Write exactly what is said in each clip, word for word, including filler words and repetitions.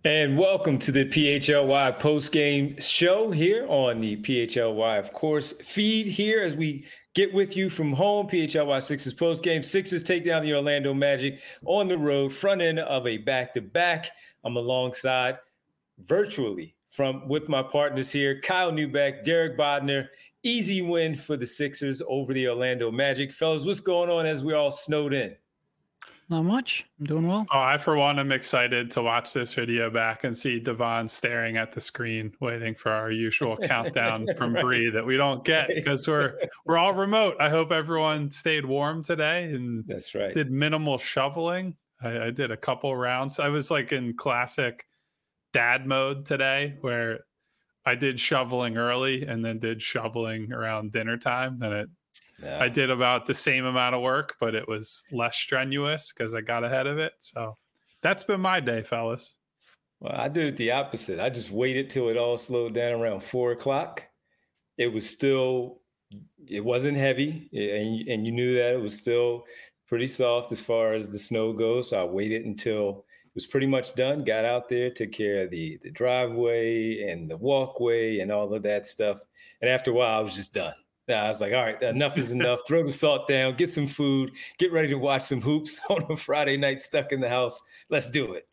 And welcome to the P H L Y post-game show here on the P H L Y, of course, feed here as we get with you from home. P H L Y Sixers post-game. Sixers take down the Orlando Magic on the road, front end of a back-to-back. I'm alongside virtually from with my partners here, Kyle Neubeck, Derek Bodner. Easy win for the Sixers over the Orlando Magic. Fellas, what's going on as we're all snowed in? Not much. I'm doing well. Oh, I, for one, am excited to watch this video back and see Devon staring at the screen, waiting for our usual countdown from right. Bree that we don't get because we're we're all remote. I hope everyone stayed warm today and that's right. Did minimal shoveling. I, I did a couple rounds. I was like in classic dad mode today, where I did shoveling early and then did shoveling around dinner time, and it. Yeah. I did about the same amount of work, but it was less strenuous because I got ahead of it. So that's been my day, fellas. Well, I did it the opposite. I just waited till it all slowed down around four o'clock. It was still, it wasn't heavy, and, and you knew that it was still pretty soft as far as the snow goes. So I waited until it was pretty much done, got out there, took care of the, the driveway and the walkway and all of that stuff. And after a while, I was just done. I was like, all right, enough is enough. Throw the salt down, get some food, get ready to watch some hoops on a Friday night stuck in the house. Let's do it.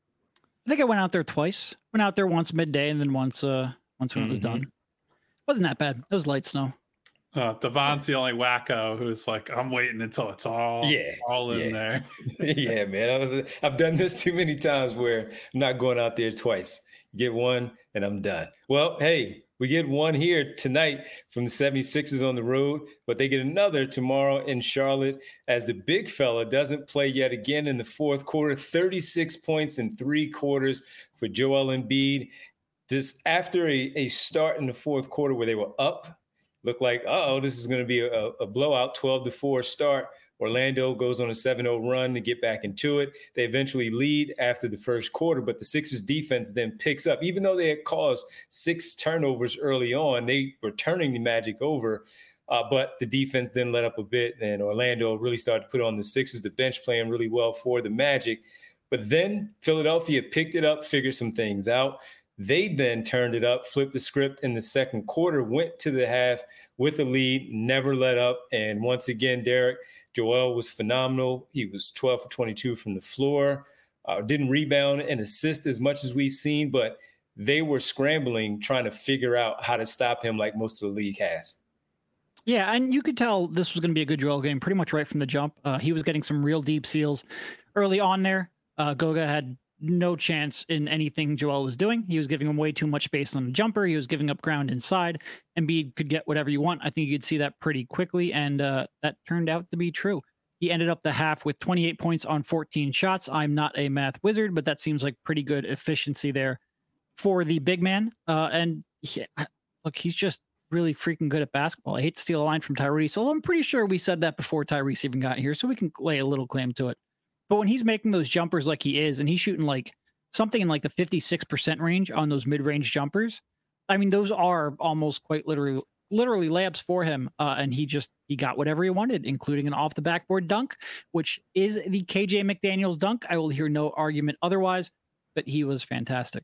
I think I went out there twice. Went out there once midday and then once uh, once when mm-hmm. it was done. Wasn't that bad. It was light snow. Uh, Devon's the only wacko who's like, I'm waiting until it's all, yeah, all in yeah. there. yeah, man. I was, I've done this too many times where I'm not going out there twice. Get one and I'm done. Well, hey, we get one here tonight from the seventy-sixers on the road, but they get another tomorrow in Charlotte as the big fella doesn't play yet again in the fourth quarter. thirty-six points in three quarters for Joel Embiid. Just after a, a start in the fourth quarter where they were up, looked like, uh-oh, this is going to be a, a blowout, twelve to four start. Orlando goes on a seven oh run to get back into it. They eventually lead after the first quarter, but the Sixers defense then picks up. Even though they had caused six turnovers early on, they were turning the Magic over, uh, but the defense then let up a bit, and Orlando really started to put on the Sixers, the bench playing really well for the Magic. But then Philadelphia picked it up, figured some things out. They then turned it up, flipped the script in the second quarter, went to the half with a lead, never let up. And once again, Derek, Joel was phenomenal. He was twelve for twenty-two from the floor, uh, didn't rebound and assist as much as we've seen, but they were scrambling, trying to figure out how to stop him like most of the league has. Yeah, and you could tell this was going to be a good Joel game pretty much right from the jump. Uh, he was getting some real deep seals early on there. Uh, Goga had no chance in anything Joel was doing. He was giving him way too much space on the jumper. He was giving up ground inside. Embiid could get whatever you want. I think you could see that pretty quickly, and uh, that turned out to be true. He ended up the half with twenty-eight points on fourteen shots. I'm not a math wizard, but that seems like pretty good efficiency there for the big man. Uh, and he, look, he's just really freaking good at basketball. I hate to steal a line from Tyrese, although I'm pretty sure we said that before Tyrese even got here, so we can lay a little claim to it. But when he's making those jumpers like he is, and he's shooting like something in like the fifty-six percent range on those mid-range jumpers, I mean, those are almost quite literally literally layups for him. Uh, and he just, he got whatever he wanted, including an off the backboard dunk, which is the K J McDaniels dunk. I will hear no argument otherwise, but he was fantastic.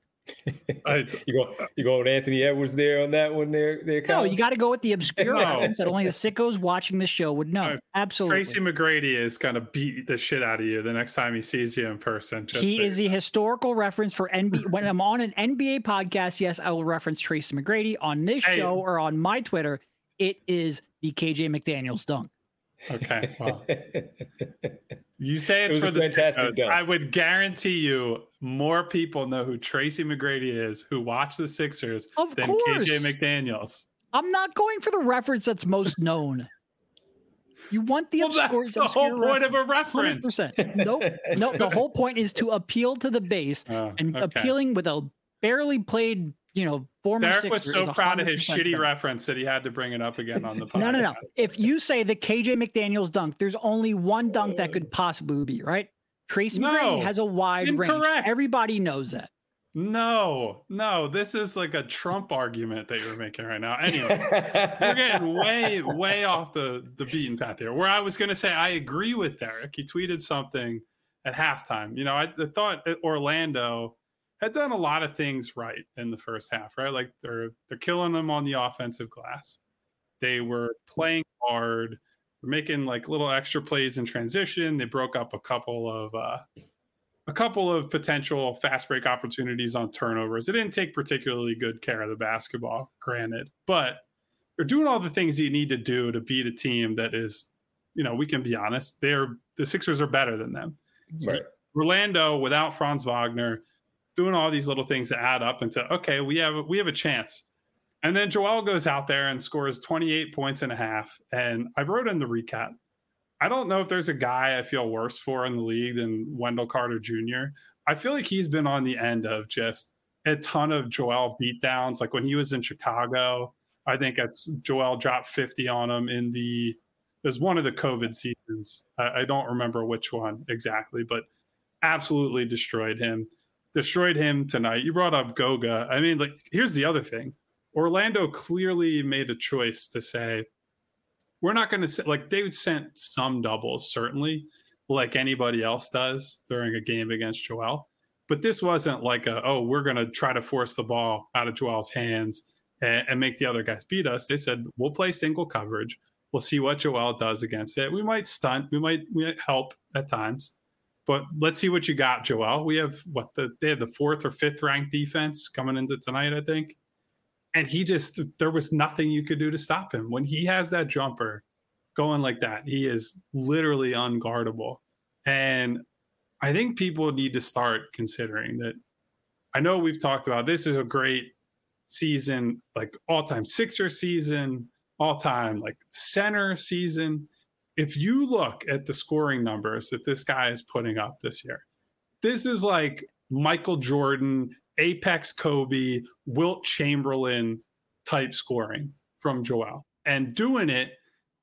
I, you go, you go with Anthony Edwards there on that one there. there no, you got to go with the obscure no. reference that only the sickos watching this show would know. Uh, Absolutely. Tracy McGrady is going to beat the shit out of you the next time he sees you in person. Just he so is the historical reference for N B A. When I'm on an N B A podcast, yes, I will reference Tracy McGrady. On this hey. show or on my Twitter, it is the K J McDaniels dunk. Okay, well, you say it's it for the fantastic dunk. I would guarantee you more people know who Tracy McGrady is who watch the Sixers of than course. K J McDaniels. I'm not going for the reference that's most known. You want the well, obscure, that's the whole point of a reference. one hundred percent. Nope. No, the whole point is to appeal to the base, oh, and okay. appealing with a barely played, you know, former Derek Sixer was so proud of his shitty better. reference that he had to bring it up again on the podcast. No, no, no. If you say the K J McDaniels dunk, there's only one dunk that could possibly be, right? Tracy no, McGrady has a wide incorrect. range. Everybody knows that. No, no, this is like a Trump argument that you're making right now. Anyway, we're getting way, way off the, the beaten path here. Where I was going to say, I agree with Derek. He tweeted something at halftime. You know, I, I thought Orlando had done a lot of things right in the first half, right? Like they're they're killing them on the offensive glass. They were playing hard, they're making like little extra plays in transition. They broke up a couple of uh, a couple of potential fast break opportunities on turnovers. They didn't take particularly good care of the basketball, granted, but they're doing all the things you need to do to beat a team that is, you know, we can be honest, they're the Sixers are better than them. Right. Orlando without Franz Wagner, doing all these little things that add up into, okay, we have we have a chance. And then Joel goes out there and scores twenty-eight points and a half. And I wrote in the recap, I don't know if there's a guy I feel worse for in the league than Wendell Carter Junior I feel like he's been on the end of just a ton of Joel beatdowns. Like when he was in Chicago, I think that's Joel dropped fifty on him in the, it was one of the COVID seasons. I, I don't remember which one exactly, but absolutely destroyed him. Destroyed him tonight. You brought up Goga. I mean, like, here's the other thing. Orlando clearly made a choice to say, we're not going to, like, they sent some doubles, certainly, like anybody else does during a game against Joel. But this wasn't like a, oh, we're going to try to force the ball out of Joel's hands and, and make the other guys beat us. They said, we'll play single coverage. We'll see what Joel does against it. We might stunt. We might, we might help at times. But let's see what you got, Joel. We have what the they have the fourth or fifth ranked defense coming into tonight, I think. And he just, there was nothing you could do to stop him. When he has that jumper going like that, he is literally unguardable. And I think people need to start considering that. I know we've talked about this is a great season, like all-time Sixer season, all-time like center season. If you look at the scoring numbers that this guy is putting up this year, this is like Michael Jordan, Apex Kobe, Wilt Chamberlain type scoring from Joel, and doing it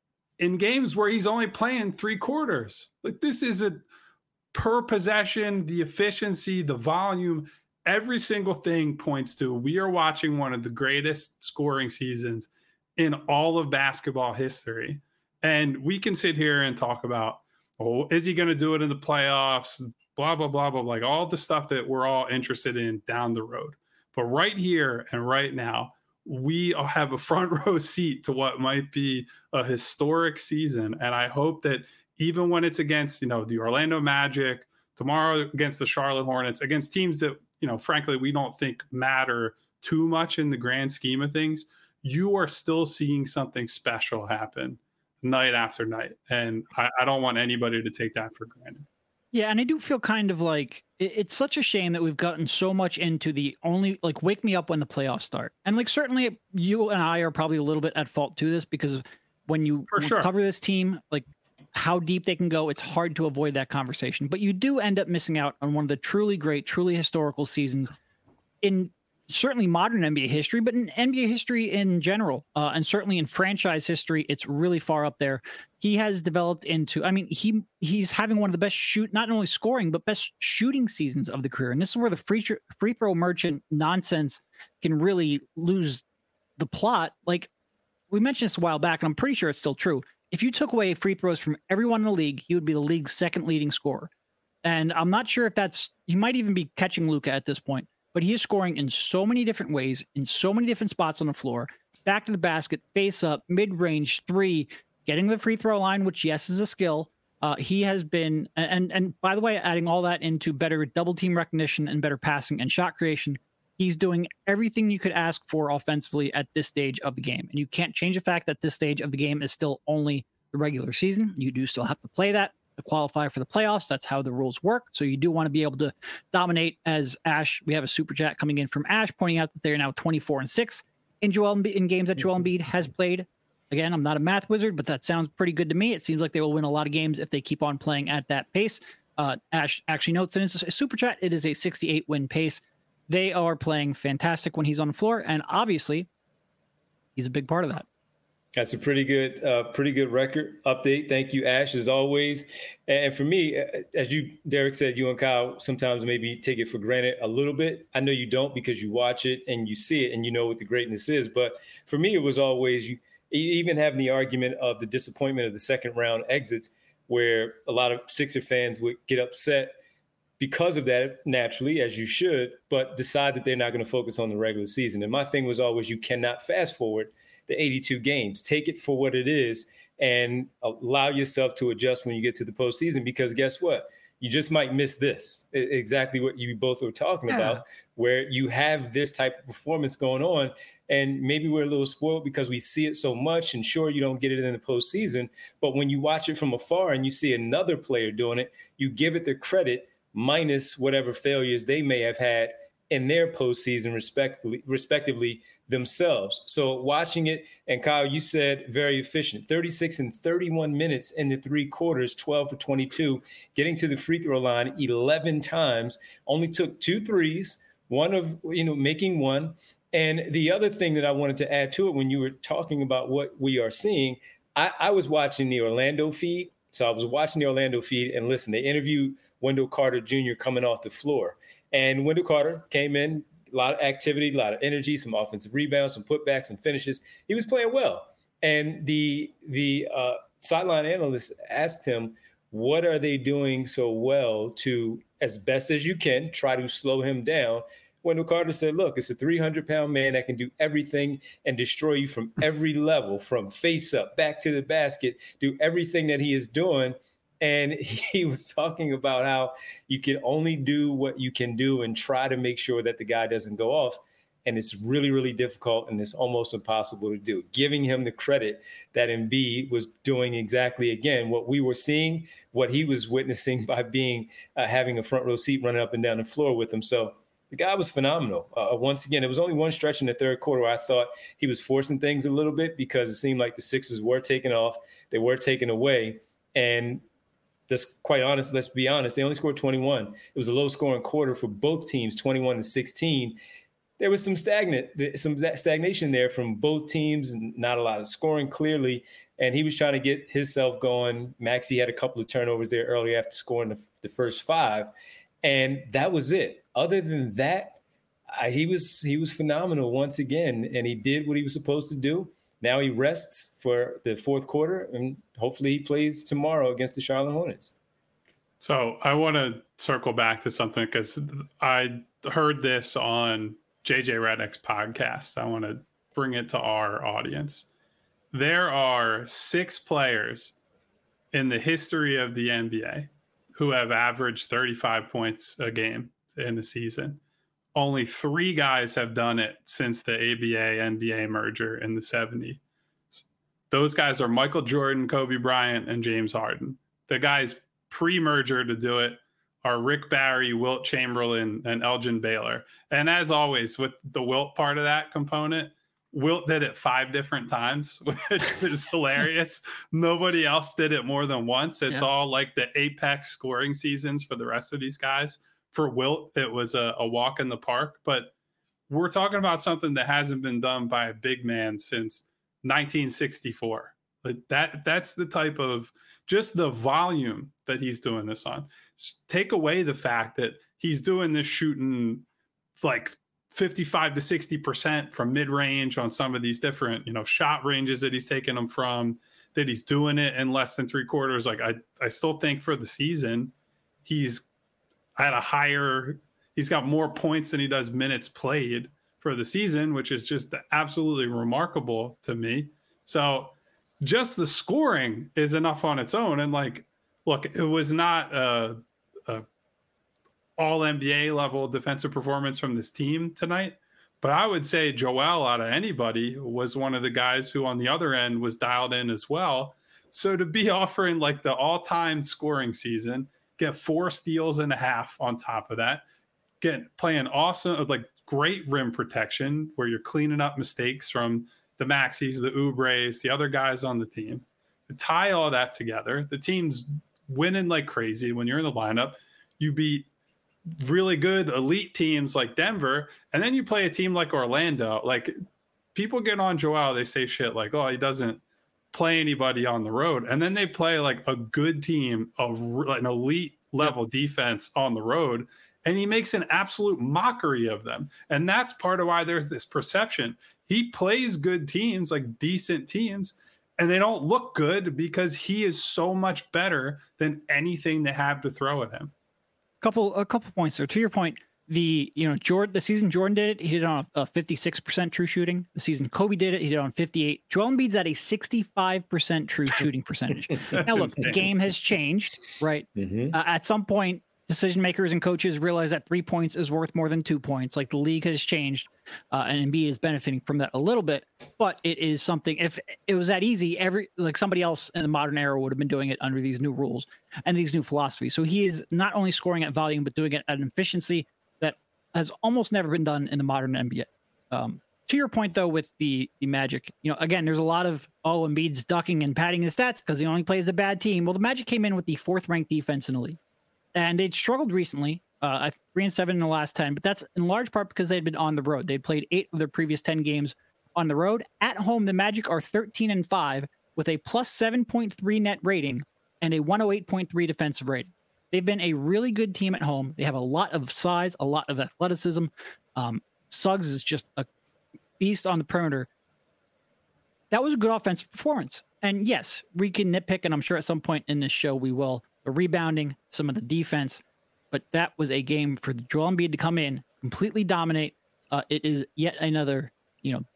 in games where he's only playing three quarters. Like this is a per possession, the efficiency, the volume, every single thing points to we are watching one of the greatest scoring seasons in all of basketball history. And we can sit here and talk about, oh, is he going to do it in the playoffs? Blah, blah, blah, blah, like all the stuff that we're all interested in down the road. But right here and right now, we have a front row seat to what might be a historic season. And I hope that even when it's against, you know, the Orlando Magic, tomorrow against the Charlotte Hornets, against teams that, you know, frankly, we don't think matter too much in the grand scheme of things, you are still seeing something special happen night after night. And I, I don't want anybody to take that for granted. Yeah, and I do feel kind of like it, it's such a shame that we've gotten so much into the only, like, wake me up when the playoffs start. And, like, certainly you and I are probably a little bit at fault to this because when you for sure. cover this team, like, how deep they can go, it's hard to avoid that conversation. But you do end up missing out on one of the truly great, truly historical seasons in certainly modern N B A history, but in N B A history in general, uh, and certainly in franchise history, it's really far up there. He has developed into, I mean, he he's having one of the best shoot, not only scoring, but best shooting seasons of the career. And this is where the free, free throw merchant nonsense can really lose the plot. Like we mentioned this a while back, and I'm pretty sure it's still true. If you took away free throws from everyone in the league, he would be the league's second leading scorer. And I'm not sure if that's, he might even be catching Luka at this point, but he is scoring in so many different ways, in so many different spots on the floor, back to the basket, face up, mid-range, three, getting the free throw line, which, yes, is a skill. Uh, he has been, and and by the way, adding all that into better double team recognition and better passing and shot creation, he's doing everything you could ask for offensively at this stage of the game. And you can't change the fact that this stage of the game is still only the regular season. You do still have to play that to qualify for the playoffs. That's how the rules work. So you do want to be able to dominate. As Ash, we have a super chat coming in from Ash pointing out that they're now twenty-four and six in Joel Embiid, in games that Joel Embiid has played. Again, I'm not a math wizard, but that sounds pretty good to me. It seems like they will win a lot of games if they keep on playing at that pace. Uh, Ash actually notes in his super chat, it is a sixty-eight win pace. They are playing fantastic when he's on the floor, and obviously he's a big part of that. That's a pretty good, uh, pretty good record update. Thank you, Ash, as always. And for me, as you, Derek said, you and Kyle sometimes maybe take it for granted a little bit. I know you don't because you watch it and you see it and you know what the greatness is. But for me, it was always you. Even having the argument of the disappointment of the second round exits, where a lot of Sixer fans would get upset because of that, naturally, as you should, but decide that they're not going to focus on the regular season. And my thing was always, you cannot fast forward the eighty-two games. Take it for what it is and allow yourself to adjust when you get to the postseason, because guess what? You just might miss this, exactly what you both were talking yeah. about, where you have this type of performance going on. And maybe we're a little spoiled because we see it so much, and sure, you don't get it in the postseason, but when you watch it from afar and you see another player doing it, you give it the credit minus whatever failures they may have had in their postseason, respectively, respectively themselves. So watching it, and Kyle, you said very efficient, thirty-six and thirty-one minutes in the three quarters, twelve for twenty-two, getting to the free throw line eleven times, only took two threes, one of, you know, making one. And the other thing that I wanted to add to it, when you were talking about what we are seeing, I, I was watching the Orlando feed. So I was watching the Orlando feed, and listen, they interviewed Wendell Carter Junior coming off the floor. And Wendell Carter came in, a lot of activity, a lot of energy, some offensive rebounds, some putbacks and finishes. He was playing well. And the the uh, sideline analyst asked him, what are they doing so well to, as best as you can, try to slow him down? Wendell Carter said, look, it's a three hundred pound man that can do everything and destroy you from every level, from face up, back to the basket, do everything that he is doing. And he was talking about how you can only do what you can do and try to make sure that the guy doesn't go off. And it's really, really difficult, and it's almost impossible to do. Giving him the credit that Embiid was doing exactly, again, what we were seeing, what he was witnessing by being uh, having a front row seat running up and down the floor with him. So the guy was phenomenal. Uh, once again, it was only one stretch in the third quarter where I thought he was forcing things a little bit, because it seemed like the Sixers were taking off. They were taken away. And that's quite honest. Let's be honest. They only scored twenty-one. It was a low scoring quarter for both teams, twenty-one to sixteen. There was some stagnant, some stagnation there from both teams, and not a lot of scoring clearly. And he was trying to get himself going. Maxey had a couple of turnovers there early after scoring the, the first five. And that was it. Other than that, I, he was he was phenomenal once again. And he did what he was supposed to do. Now he rests for the fourth quarter, and hopefully he plays tomorrow against the Charlotte Hornets. So I want to circle back to something, because I heard this on J J Redick's podcast. I want to bring it to our audience. There are six players in the history of the N B A who have averaged thirty-five points a game in a season. Only three guys have done it since the A B A N B A merger in the seventies. Those guys are Michael Jordan, Kobe Bryant, and James Harden. The guys pre-merger to do it are Rick Barry, Wilt Chamberlain, and Elgin Baylor. And as always, with the Wilt part of that component, Wilt did it five different times, which is hilarious. Nobody else did it more than once. It's yeah. all like the apex scoring seasons for the rest of these guys. For Wilt, it was a, a walk in the park, but we're talking about something that hasn't been done by a big man since nineteen sixty-four. Like that, that's the type of, just the volume that he's doing this on. Take away the fact that he's doing this shooting like fifty-five to sixty percent from mid-range on some of these different, you know, shot ranges that he's taking them from, that he's doing it in less than three quarters. Like I, I still think for the season, he's at a higher, he's got more points than he does minutes played for the season, which is just absolutely remarkable to me. So just the scoring is enough on its own. And like, look, it was not a, a all N B A level defensive performance from this team tonight, but I would say Joel, out of anybody, was one of the guys who on the other end was dialed in as well. So to be offering like the all-time scoring season, get four steals and a half on top of that, get playing awesome, like great rim protection where you're cleaning up mistakes from the Maxies, the Oubres, the other guys on the team. To tie all that together, the team's winning like crazy. When you're in the lineup, you beat really good elite teams like Denver, and then you play a team like Orlando. Like, people get on Joel, they say shit like, oh, he doesn't play anybody on the road, and then they play like a good team, of an elite level defense on the road, and he makes an absolute mockery of them. And that's part of why there's this perception he plays good teams, like decent teams, and they don't look good because he is so much better than anything they have to throw at him. couple a couple points there. To your point, the you know Jordan the season Jordan did it, he did it on a fifty-six percent true shooting. The season Kobe did it, he did it on fifty-eight. Joel Embiid's at a sixty-five percent true shooting percentage. Now look, insane. The game has changed, right? Mm-hmm. Uh, at some point, decision makers and coaches realize that three points is worth more than two points. Like the league has changed, uh, and Embiid is benefiting from that a little bit. But it is something. If it was that easy, every like somebody else in the modern era would have been doing it under these new rules and these new philosophies. So he is not only scoring at volume, but doing it at an efficiency that has almost never been done in the modern N B A. Um, to your point, though, with the the Magic, you know, again, there's a lot of oh, Embiid's ducking and padding his stats because he only plays a bad team. Well, the Magic came in with the fourth ranked defense in the league. And they'd struggled recently, uh, three and seven in the last ten, but that's in large part because they'd been on the road. They'd played eight of their previous ten games on the road. At home, the Magic are thirteen and five with a plus seven point three net rating and a one oh eight point three defensive rating. They've been a really good team at home. They have a lot of size, a lot of athleticism. Um, Suggs is just a beast on the perimeter. That was a good offensive performance. And yes, we can nitpick, and I'm sure at some point in this show we will. The rebounding, some of the defense, but that was a game for Joel Embiid to come in, completely dominate. Uh, it is yet another, you know,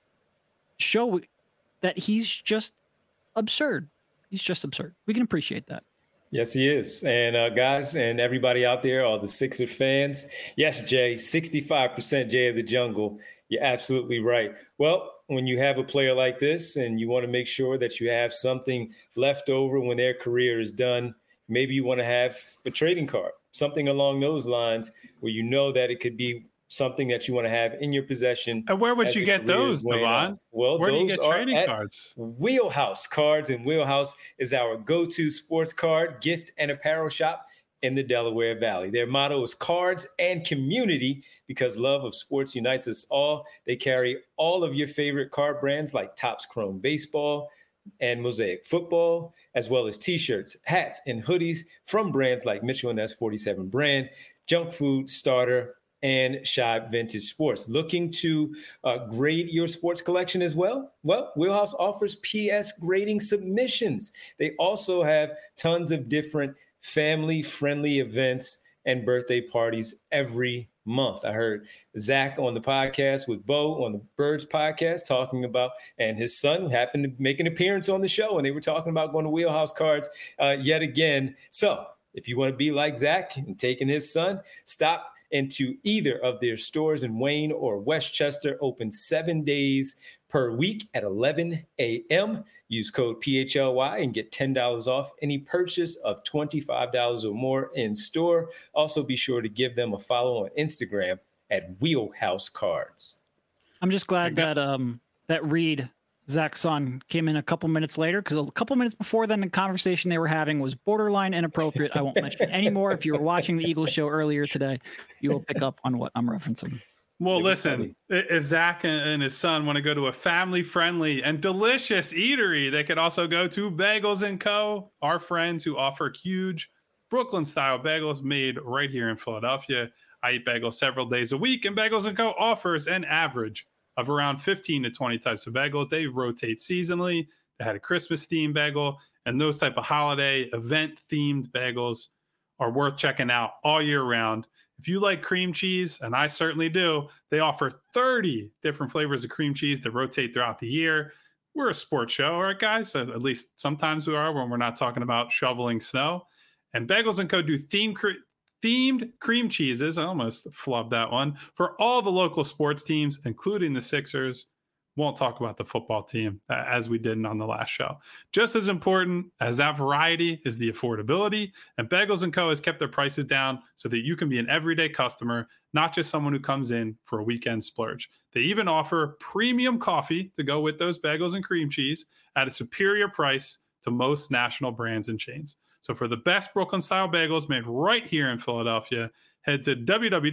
show that he's just absurd. He's just absurd. We can appreciate that. Yes, he is. And uh, guys and everybody out there, all the Sixer fans. Yes, Jay, sixty-five percent Jay of the Jungle. You're absolutely right. Well, when you have a player like this and you want to make sure that you have something left over when their career is done, maybe you want to have a trading card, something along those lines where you know that it could be something that you want to have in your possession. And where would you get those, Navon? Well, where those do you get trading are cards? Wheelhouse Cards, and Wheelhouse is our go-to sports card, gift, and apparel shop in the Delaware Valley. Their motto is cards and community because love of sports unites us all. They carry all of your favorite card brands like Topps Chrome Baseball and Mosaic Football, as well as T-shirts, hats, and hoodies from brands like Mitchell and S forty-seven Brand, Junk Food, Starter, and Shibe Vintage Sports. Looking to uh, grade your sports collection as well? Well, Wheelhouse offers P S grading submissions. They also have tons of different family-friendly events and birthday parties every month. I heard Zach on the podcast with Bo on the Birds podcast talking about, and his son happened to make an appearance on the show, and they were talking about going to Wheelhouse Cards uh, yet again. So if you want to be like Zach and taking his son, stop into either of their stores in Wayne or Westchester, open seven days per week at eleven a.m. Use code P H L Y and get ten dollars off any purchase of twenty-five dollars or more in store. Also, be sure to give them a follow on Instagram at Wheelhouse Cards. I'm just glad that um that Reed, Zach's son, came in a couple minutes later, because a couple minutes before then the conversation they were having was borderline inappropriate. I won't mention it anymore. If you were watching the Eagles show earlier today, you will pick up on what I'm referencing. Well, listen, funny. If Zach and his son want to go to a family-friendly and delicious eatery, they could also go to Bagels and Co., our friends who offer huge Brooklyn-style bagels made right here in Philadelphia. I eat bagels several days a week, and Bagels and Co. offers an average of around fifteen to twenty types of bagels. They rotate seasonally. They had a Christmas-themed bagel, and those type of holiday event-themed bagels are worth checking out all year round. If you like cream cheese, and I certainly do, they offer thirty different flavors of cream cheese that rotate throughout the year. We're a sports show, all right, guys? So at least sometimes we are when we're not talking about shoveling snow. And Bagels and Co. do themed, cre- themed cream cheeses. I almost flubbed that one. For all the local sports teams, including the Sixers. Won't talk about the football team uh, as we did on the last show. Just as important as that variety is the affordability, and Bagels and Co. has kept their prices down so that you can be an everyday customer, not just someone who comes in for a weekend splurge. They even offer premium coffee to go with those bagels and cream cheese at a superior price to most national brands and chains. So for the best Brooklyn-style bagels made right here in Philadelphia, head to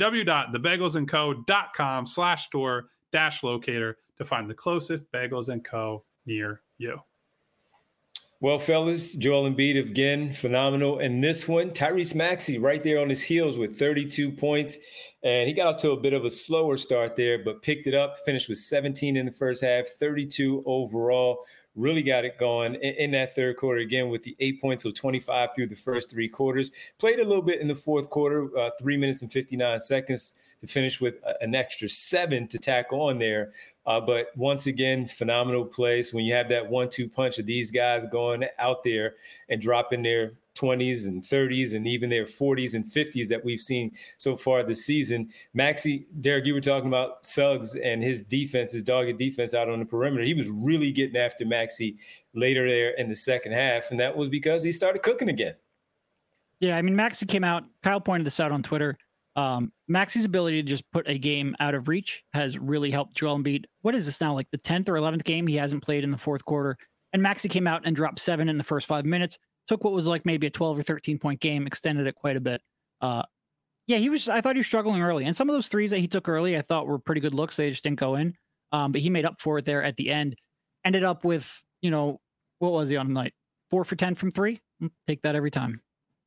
www.thebagelsandco.com slash store dash locator to find the closest Bagels and Co. near you. Well, fellas, Joel Embiid again, phenomenal. And this one, Tyrese Maxey right there on his heels with thirty-two points. And he got off to a bit of a slower start there, but picked it up, finished with seventeen in the first half, thirty-two overall. really got it going in, in that third quarter again with the eight points, so twenty-five through the first three quarters. Played a little bit in the fourth quarter, uh, three minutes and fifty-nine seconds to finish with an extra seven to tack on there. Uh, but once again, phenomenal place when you have that one two punch of these guys going out there and dropping their twenties and thirties and even their forties and fifties that we've seen so far this season. Maxey, Derek, you were talking about Suggs and his defense, his dogged defense out on the perimeter. He was really getting after Maxey later there in the second half, and that was because he started cooking again. Yeah, I mean, Maxey came out. Kyle pointed this out on Twitter. Um, Maxey's ability to just put a game out of reach has really helped Joel Embiid. What is this now, like the tenth or eleventh game he hasn't played in the fourth quarter? And Maxey came out and dropped seven in the first five minutes. Took what was like maybe a twelve or thirteen point game, extended it quite a bit. Uh, yeah, he was, I thought he was struggling early. And some of those threes that he took early, I thought were pretty good looks. They just didn't go in. Um, but he made up for it there at the end. Ended up with, you know, what was he on the night? Four for ten from three. Take that every time.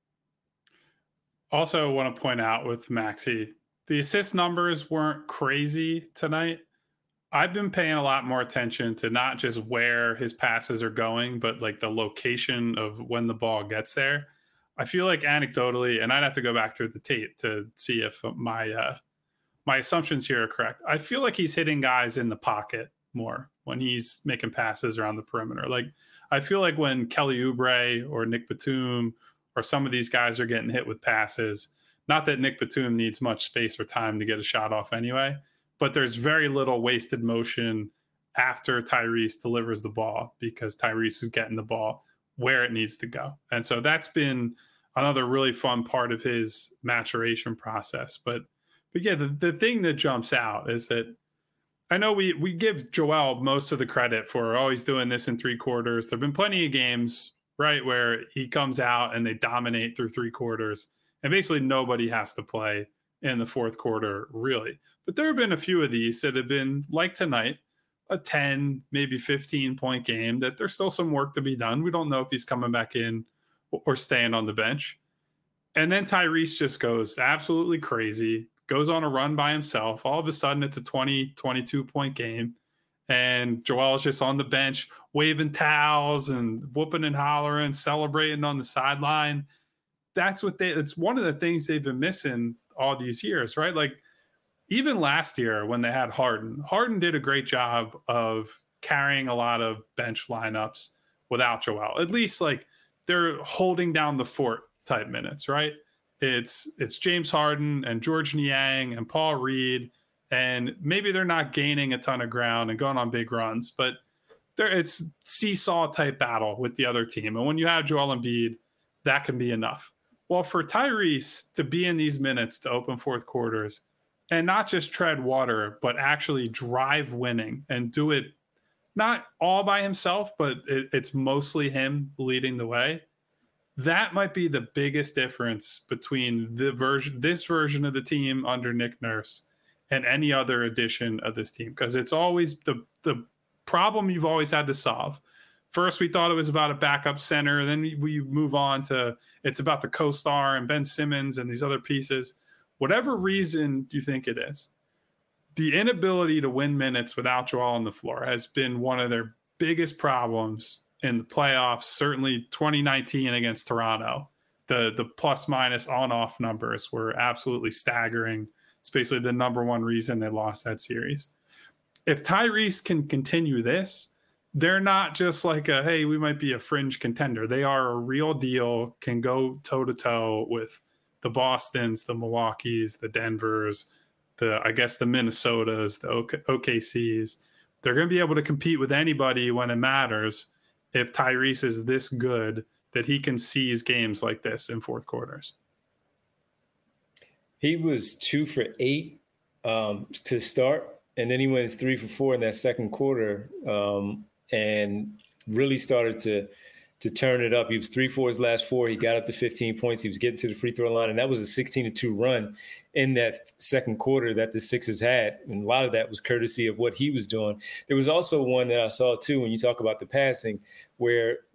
Also want to point out with Maxey, the assist numbers weren't crazy tonight. I've been paying a lot more attention to not just where his passes are going, but like the location of when the ball gets there. I feel like anecdotally, and I'd have to go back through the tape to see if my uh, my assumptions here are correct. I feel like he's hitting guys in the pocket more when he's making passes around the perimeter. Like I feel like when Kelly Oubre or Nick Batum or some of these guys are getting hit with passes, not that Nick Batum needs much space or time to get a shot off anyway, but there's very little wasted motion after Tyrese delivers the ball because Tyrese is getting the ball where it needs to go. And so that's been another really fun part of his maturation process. But but yeah, the, the thing that jumps out is that I know we we give Joel most of the credit for, oh, he's doing this in three quarters. There have been plenty of games, right, where he comes out and they dominate through three quarters. And basically nobody has to play in the fourth quarter, really. But there have been a few of these that have been, like tonight, a ten, maybe fifteen point game that there's still some work to be done. We don't know if he's coming back in or staying on the bench. And then Tyrese just goes absolutely crazy, goes on a run by himself. All of a sudden it's a twenty, twenty-two point game. And Joel's just on the bench waving towels and whooping and hollering, celebrating on the sideline. That's what they, it's one of the things they've been missing all these years, right? Like even last year when they had Harden, Harden did a great job of carrying a lot of bench lineups without Joel. At least like they're holding down the fort type minutes, right? It's it's James Harden and George Niang and Paul Reed, and maybe they're not gaining a ton of ground and going on big runs, but there it's seesaw type battle with the other team. And when you have Joel Embiid, that can be enough. Well, for Tyrese to be in these minutes to open fourth quarters and not just tread water, but actually drive winning and do it not all by himself, but it, it's mostly him leading the way. That might be the biggest difference between the version, this version of the team under Nick Nurse and any other edition of this team, because it's always the the problem you've always had to solve. First, we thought it was about a backup center. Then we, we move on to it's about the co-star and Ben Simmons and these other pieces. Whatever reason you think it is, the inability to win minutes without Joel on the floor has been one of their biggest problems in the playoffs, certainly twenty nineteen against Toronto. The the plus minus on off numbers were absolutely staggering. It's basically the number one reason they lost that series. If Tyrese can continue this, they're not just like a, hey, we might be a fringe contender. They are a real deal, can go toe to toe with the Bostons, the Milwaukees, the Denvers, the, I guess the Minnesotas, the O K Cs. They're going to be able to compete with anybody when it matters if Tyrese is this good that he can seize games like this in fourth quarters. He was two for eight um, to start, and then he went three for four in that second quarter um, and really started to to turn it up. He was three for his last four. He got up to fifteen points. He was getting to the free throw line, and that was a sixteen to two run in that second quarter that the Sixers had. And a lot of that was courtesy of what he was doing. There was also one that I saw, too, when you talk about the passing, where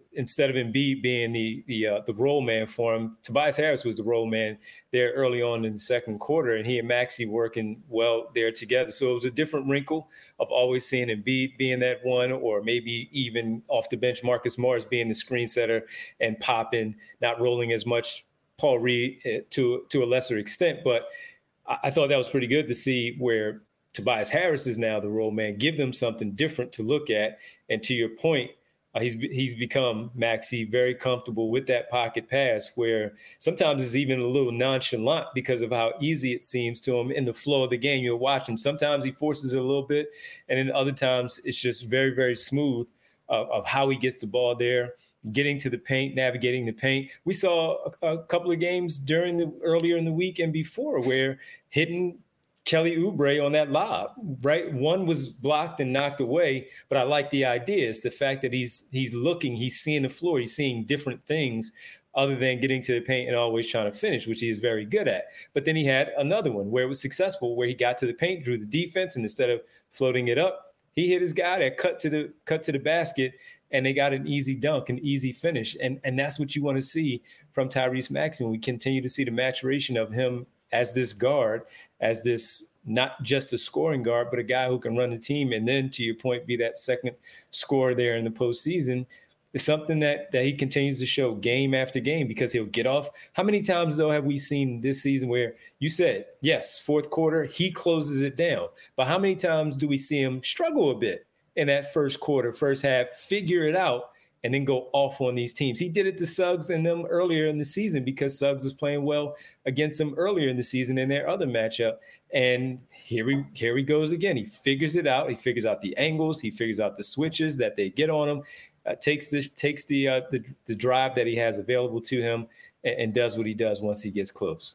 instead of Embiid being the the uh, the role man for him, Tobias Harris was the role man there early on in the second quarter, and he and Maxey working well there together. So it was a different wrinkle of always seeing Embiid being that one, or maybe even off the bench, Marcus Morris being the screen setter and popping, not rolling as much. Paul Reed uh, to to a lesser extent, but I, I thought that was pretty good to see where Tobias Harris is now the role man. Give them something different to look at, and to your point. Uh, he's he's become, Maxey, very comfortable with that pocket pass where sometimes it's even a little nonchalant because of how easy it seems to him in the flow of the game. You'll watch him. Sometimes he forces it a little bit, and then other times it's just very, very smooth uh, of how he gets the ball there, getting to the paint, navigating the paint. We saw a, a couple of games during the earlier in the week and before where hitting Kelly Oubre on that lob, right? One was blocked and knocked away, but I like the idea. It's the fact that he's he's looking, he's seeing the floor, he's seeing different things other than getting to the paint and always trying to finish, which he is very good at. But then he had another one where it was successful, where he got to the paint, drew the defense, and instead of floating it up, he hit his guy that cut to the cut to the basket, and they got an easy dunk, an easy finish. And, and that's what you want to see from Tyrese Maxey. We continue to see the maturation of him as this guard, as this not just a scoring guard, but a guy who can run the team. And then, to your point, be that second scorer there in the postseason is something that that he continues to show game after game, because he'll get off. How many times, though, have we seen this season where you said, yes, fourth quarter, he closes it down. But how many times do we see him struggle a bit in that first quarter, first half, figure it out, and then go off on these teams? He did it to Suggs and them earlier in the season because Suggs was playing well against them earlier in the season in their other matchup. And here he, here he goes again. He figures it out. He figures out the angles. He figures out the switches that they get on him, uh, takes the, takes the, uh, the, the drive that he has available to him, and, and does what he does once he gets close.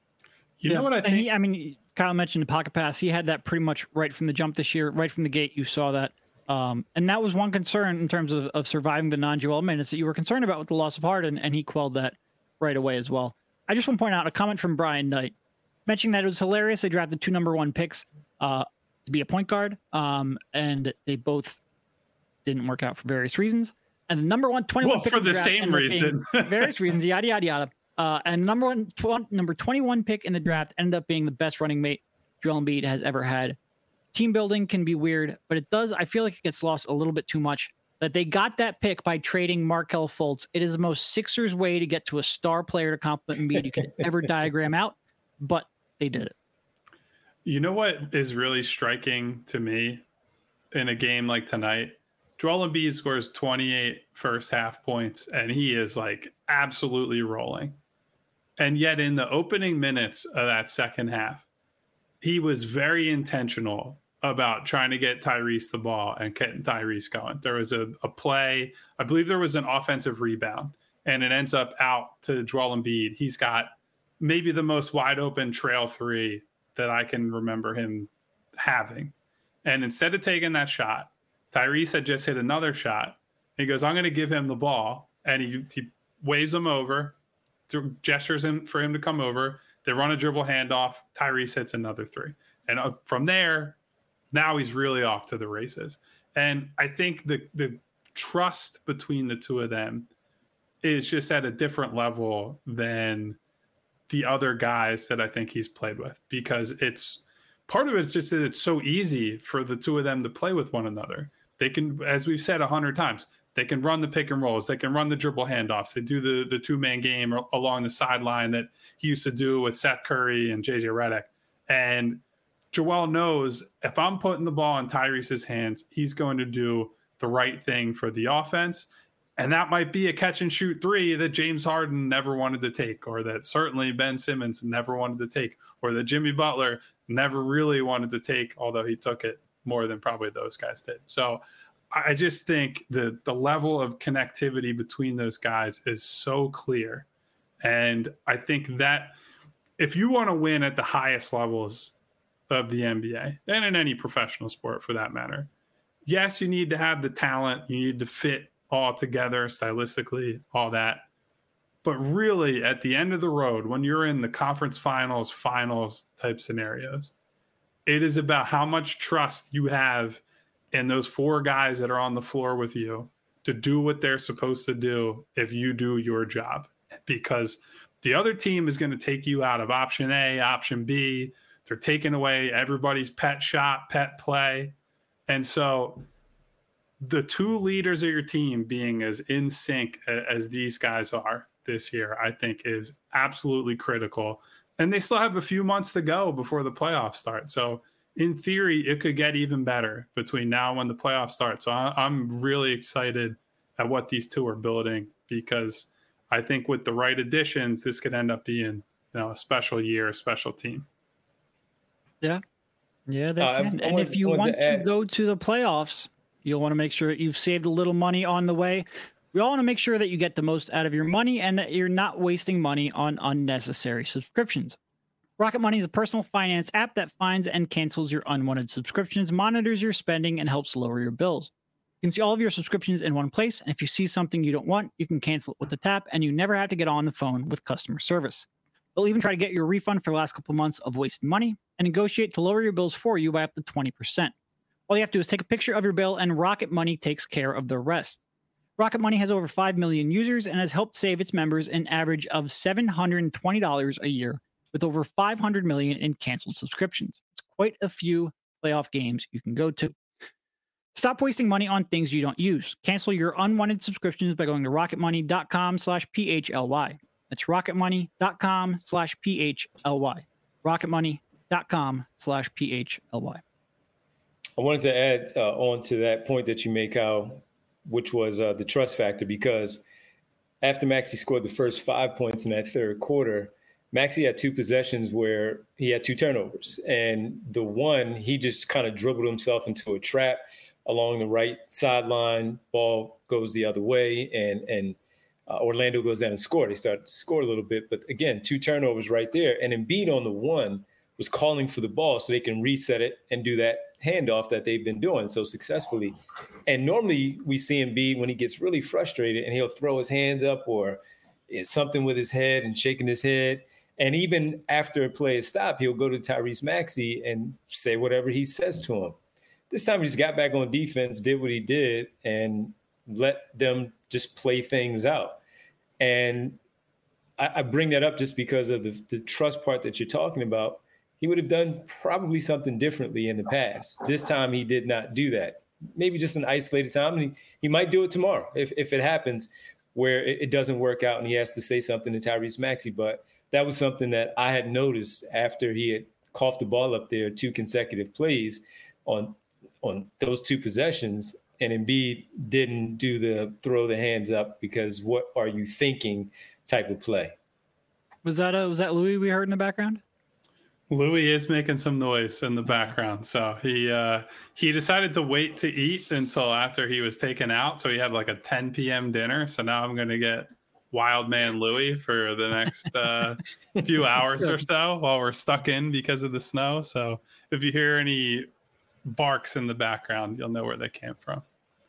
You yeah, know what I think? He, I mean, Kyle mentioned the pocket pass. He had that pretty much right from the jump this year, right from the gate. You saw that. Um, and that was one concern in terms of, of surviving the non-Joel minutes that you were concerned about with the loss of Harden, and he quelled that right away as well. I just want to point out a comment from Brian Knight mentioning that it was hilarious. They drafted two number one picks uh, to be a point guard, um, and they both didn't work out for various reasons. And the number one twenty-one well, pick for the same reason, various reasons, yada yada yada. Uh, and number one, tw- number twenty-one pick in the draft ended up being the best running mate Joel Embiid has ever had. Team building can be weird, but it does. I feel like it gets lost a little bit too much that they got that pick by trading Markelle Fultz. It is the most Sixers way to get to a star player to complement Embiid you could ever diagram out, but they did it. You know what is really striking to me in a game like tonight? Joel Embiid scores twenty-eight first half points, and he is like absolutely rolling. And yet in the opening minutes of that second half, he was very intentional about trying to get Tyrese the ball and getting Tyrese going. There was a, a play, I believe there was an offensive rebound, and it ends up out to Joel Embiid. He's got maybe the most wide open trail three that I can remember him having. And instead of taking that shot, Tyrese had just hit another shot. He goes, I'm going to give him the ball. And he, he waves him over, gestures him for him to come over. They run a dribble handoff. Tyrese hits another three. And uh, from there, now he's really off to the races. And I think the the trust between the two of them is just at a different level than the other guys that I think he's played with, because it's part of it's just that it's so easy for the two of them to play with one another. They can, as we've said a hundred times, they can run the pick and rolls. They can run the dribble handoffs. They do the, the two-man game along the sideline that he used to do with Seth Curry and J J Redick. And Joel knows if I'm putting the ball in Tyrese's hands, he's going to do the right thing for the offense. And that might be a catch and shoot three that James Harden never wanted to take, or that certainly Ben Simmons never wanted to take, or that Jimmy Butler never really wanted to take, although he took it more than probably those guys did. So I just think the the level of connectivity between those guys is so clear. And I think that if you want to win at the highest levels of the N B A, and in any professional sport for that matter, yes, you need to have the talent. You need to fit all together stylistically, all that. But really, at the end of the road, when you're in the conference finals, finals type scenarios, it is about how much trust you have in those four guys that are on the floor with you to do what they're supposed to do if you do your job, because the other team is going to take you out of option A, option B. They're taking away everybody's pet shot, pet play. And so the two leaders of your team being as in sync as these guys are this year, I think is absolutely critical. And they still have a few months to go before the playoffs start. So in theory, it could get even better between now and when the playoffs start. So I'm really excited at what these two are building, because I think with the right additions, this could end up being, you know, a special year, a special team. Yeah. Yeah, they Uh, can. I And want- if you wanted want to to add- go to the playoffs, you'll want to make sure that you've saved a little money on the way. We all want to make sure that you get the most out of your money and that you're not wasting money on unnecessary subscriptions. Rocket Money is a personal finance app that finds and cancels your unwanted subscriptions, monitors your spending, and helps lower your bills. You can see all of your subscriptions in one place, and if you see something you don't want, you can cancel it with the tap, and you never have to get on the phone with customer service. They'll even try to get your refund for the last couple of months of wasted money and negotiate to lower your bills for you by up to twenty percent. All you have to do is take a picture of your bill, and Rocket Money takes care of the rest. Rocket Money has over five million users and has helped save its members an average of seven hundred twenty dollars a year, with over five hundred million in canceled subscriptions. It's quite a few playoff games you can go to. Stop wasting money on things you don't use. Cancel your unwanted subscriptions by going to rocketmoney.com slash PHLY. That's rocketmoney.com slash PHLY. rocketmoney.com slash PHLY. I wanted to add uh, on to that point that you make, Kyle, which was uh, the trust factor, because after Maxey scored the first five points in that third quarter, Maxey had two possessions where he had two turnovers. And the one, he just kind of dribbled himself into a trap along the right sideline. Ball goes the other way, and and uh, Orlando goes down and scored. They started to score a little bit. But again, two turnovers right there. And Embiid on the one was calling for the ball so they can reset it and do that handoff that they've been doing so successfully. And normally we see Embiid when he gets really frustrated and he'll throw his hands up or something with his head and shaking his head. And even after a play is stopped, he'll go to Tyrese Maxey and say whatever he says to him. This time he just got back on defense, did what he did, and let them just play things out. And I, I bring that up just because of the, the trust part that you're talking about. He would have done probably something differently in the past. This time he did not do that. Maybe just an isolated time. And he, he might do it tomorrow if, if it happens where it, it doesn't work out and he has to say something to Tyrese Maxey. But that was something that I had noticed after he had coughed the ball up there two consecutive plays on on those two possessions. And Embiid didn't do the throw the hands up because what are you thinking type of play. Was that a, was that Louis we heard in the background? Louis is making some noise in the background. So he uh, he decided to wait to eat until after he was taken out. So he had like a ten p.m. dinner. So now I'm going to get Wild Man Louis for the next uh, few hours or so while we're stuck in because of the snow. So if you hear any barks in the background, you'll know where they came from.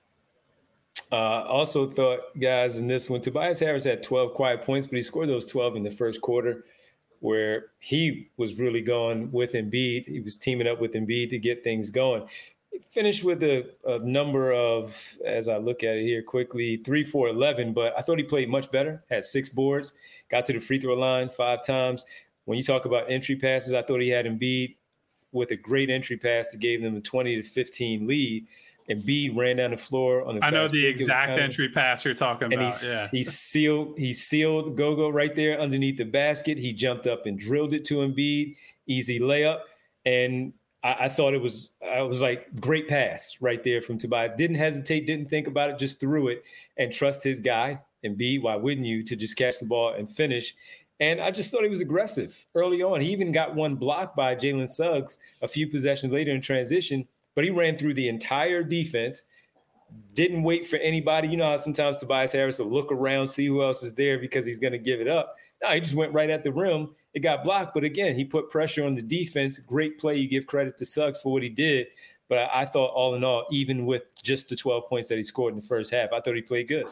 Uh, also thought, guys, in this one, Tobias Harris had twelve quiet points, but he scored those twelve in the first quarter, where he was really going with Embiid. He was teaming up with Embiid to get things going. He finished with a, a number of, as I look at it here quickly, three, four, eleven, but I thought he played much better, had six boards, got to the free throw line five times. When you talk about entry passes, I thought he had Embiid with a great entry pass that gave them a twenty to fifteen lead. Embiid ran down the floor on the I know the break. exact kind of, entry pass you're talking and about. he, yeah. he sealed he sealed Gogo right there underneath the basket. He jumped up and drilled it to Embiid, easy layup. And I, I thought it was I was like great pass right there from Tobias. Didn't hesitate, didn't think about it, just threw it and trust his guy, Embiid. Why wouldn't you, to just catch the ball and finish? And I just thought he was aggressive early on. He even got one blocked by Jalen Suggs a few possessions later in transition, but he ran through the entire defense, didn't wait for anybody. You know how sometimes Tobias Harris will look around, see who else is there because he's going to give it up. No, he just went right at the rim. It got blocked. But again, he put pressure on the defense. Great play. You give credit to Suggs for what he did. But I, I thought all in all, even with just the twelve points that he scored in the first half, I thought he played good.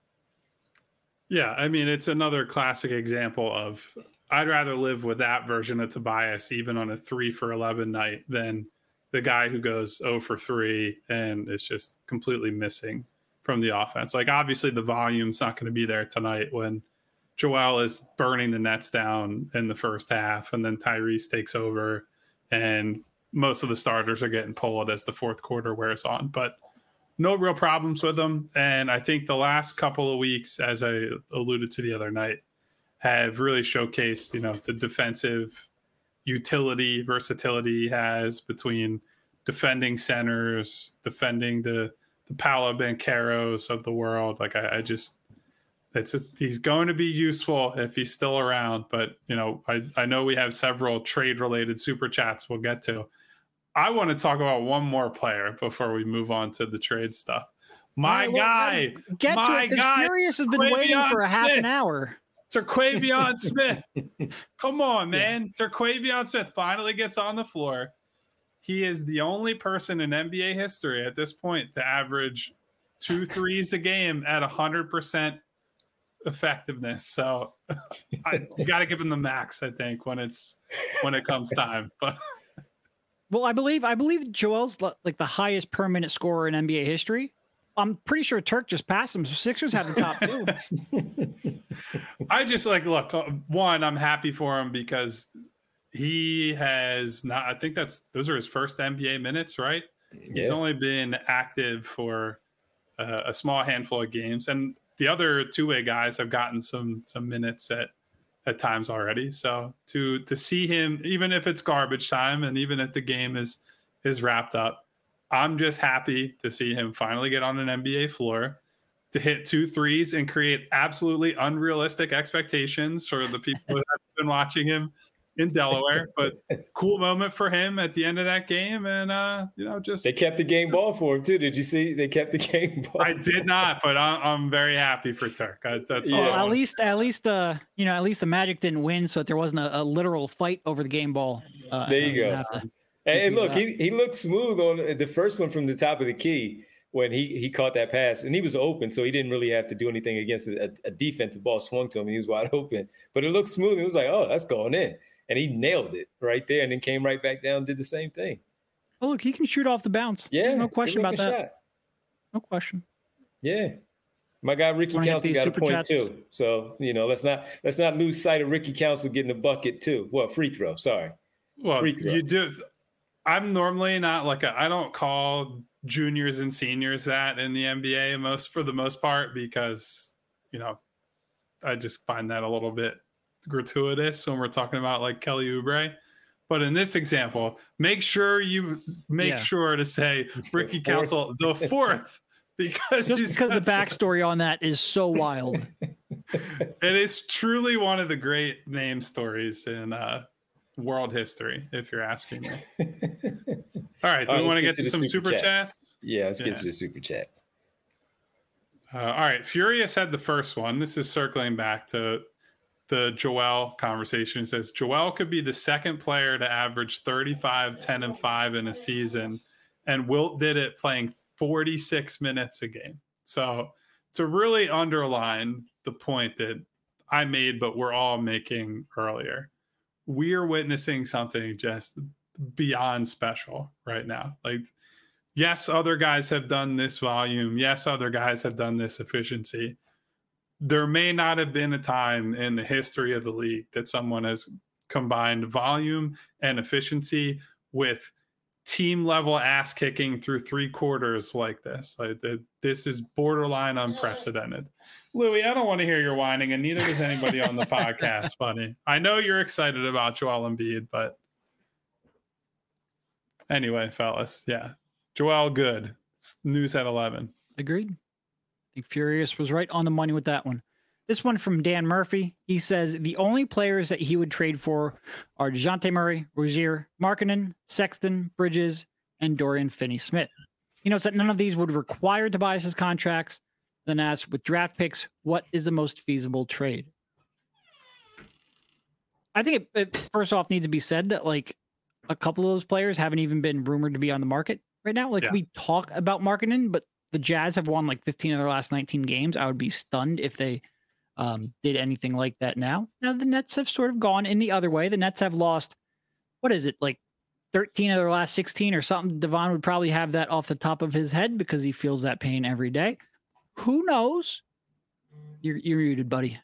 Yeah, I mean, it's another classic example of I'd rather live with that version of Tobias, even on a three for eleven night, than the guy who goes zero for three and is just completely missing from the offense. Like obviously the volume's not going to be there tonight when Joel is burning the Nets down in the first half, and then Tyrese takes over, and most of the starters are getting pulled as the fourth quarter wears on. But no real problems with them. And I think the last couple of weeks, as I alluded to the other night, have really showcased, you know, the defensive utility, versatility he has between defending centers, defending the the Paolo Bancheros of the world. Like I, I just, it's a, he's going to be useful if he's still around. But you know, I I know we have several trade related super chats we'll get to. I want to talk about one more player before we move on to the trade stuff. My right, guy, well, get my to it, guy, Furious has been Quavion waiting for a half Smith. an hour. Terquavion Smith. Come on, man. Yeah. Terquavion Smith finally gets on the floor. He is the only person in N B A history at this point to average two threes a game at one hundred percent effectiveness. So I, you got to give him the max, I think, when it's when it comes time. But well, I believe I believe Joel's like the highest per minute scorer in N B A history. I'm pretty sure Turk just passed him. So Sixers have the top two. I just like, look, one, I'm happy for him because he has not, I think that's, those are his first N B A minutes, right? Yeah. He's only been active for uh, a small handful of games. And the other two-way guys have gotten some, some minutes at, at times already. So to, to see him, even if it's garbage time and even if the game is, is wrapped up, I'm just happy to see him finally get on an N B A floor, to hit two threes and create absolutely unrealistic expectations for the people who have been watching him in Delaware. But cool moment for him at the end of that game. And, uh, you know, just. They kept the game ball for him, too. Did you see? They kept the game ball. I did not, but I'm, I'm very happy for Turk. I, that's yeah. all. Well, at least, at least, uh, you know, at least the Magic didn't win, so that there wasn't a, a literal fight over the game ball. Uh, there you go. And look, he, he looked smooth on the first one from the top of the key when he, he caught that pass. And he was open, so he didn't really have to do anything against a, a defensive ball swung to him. He was wide open. But it looked smooth. It was like, oh, that's going in. And he nailed it right there and then came right back down and did the same thing. Oh, look, he can shoot off the bounce. Yeah. There's no question about that. Shot. No question. Yeah. My guy Ricky Council got a point chats? too. So, you know, let's not let's not lose sight of Ricky Council getting a bucket too. Well, free throw. Sorry. Well, free throw. You do. I'm normally not like a, I don't call juniors and seniors that in the N B A most for the most part, because, you know, I just find that a little bit gratuitous when we're talking about like Kelly Oubre. But in this example, make sure you make yeah. sure to say Ricky the Council the fourth, because just because the backstory on that is so wild. It is truly one of the great name stories in uh world history, if you're asking me. All right, do all we right, want to get to, to some super, super chats? chats? Yeah, let's yeah. get to the super chats. Uh, all right, Furious had the first one. This is circling back to the Joel conversation. It says Joel could be the second player to average thirty-five, ten, and five in a season, and Wilt did it playing forty-six minutes a game. So to really underline the point that I made, but we're all making earlier, we are witnessing something just beyond special right now. Like, yes, other guys have done this volume. Yes, other guys have done this efficiency. There may not have been a time in the history of the league that someone has combined volume and efficiency with team level ass kicking through three quarters like this. Like the, this is borderline unprecedented. Louis, I don't want to hear your whining, and neither does anybody on the podcast, buddy. I know you're excited about Joel Embiid, but anyway, fellas, yeah. Joel, good. It's news at eleven. Agreed. I think Furious was right on the money with that one. This one from Dan Murphy. He says the only players that he would trade for are DeJounte Murray, Rozier, Markkanen, Sexton, Bridges, and Dorian Finney-Smith. He notes that none of these would require Tobias's contracts. Then asks, with draft picks, what is the most feasible trade? I think it, it first off needs to be said that like a couple of those players haven't even been rumored to be on the market right now. Like yeah. we talk about Markkanen, but the Jazz have won like fifteen of their last nineteen games. I would be stunned if they um, did anything like that now. Now the Nets have sort of gone in the other way. The Nets have lost, what is it, like thirteen of their last sixteen or something. Devon would probably have that off the top of his head because he feels that pain every day. Who knows? You're you're muted, buddy.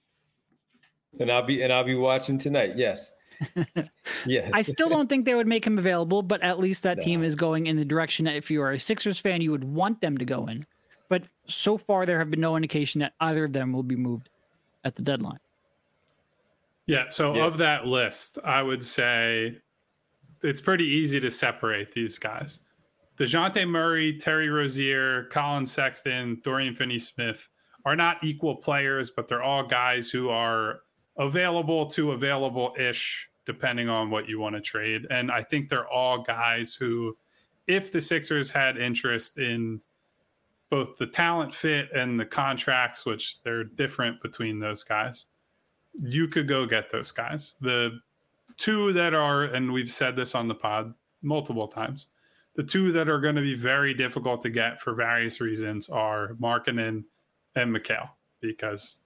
And I'll be and I'll be watching tonight. Yes. Yes. I still don't think they would make him available, but at least that No. team is going in the direction that if you are a Sixers fan, you would want them to go in. But so far, there have been no indication that either of them will be moved at the deadline. Yeah. So Yeah. of that list, I would say it's pretty easy to separate these guys. DeJounte Murray, Terry Rozier, Colin Sexton, Dorian Finney-Smith are not equal players, but they're all guys who are available to available-ish, depending on what you want to trade. And I think they're all guys who, if the Sixers had interest in both the talent fit and the contracts, which they're different between those guys, you could go get those guys. The two that are, and we've said this on the pod multiple times, the two that are going to be very difficult to get for various reasons are Markkanen and Mikal, because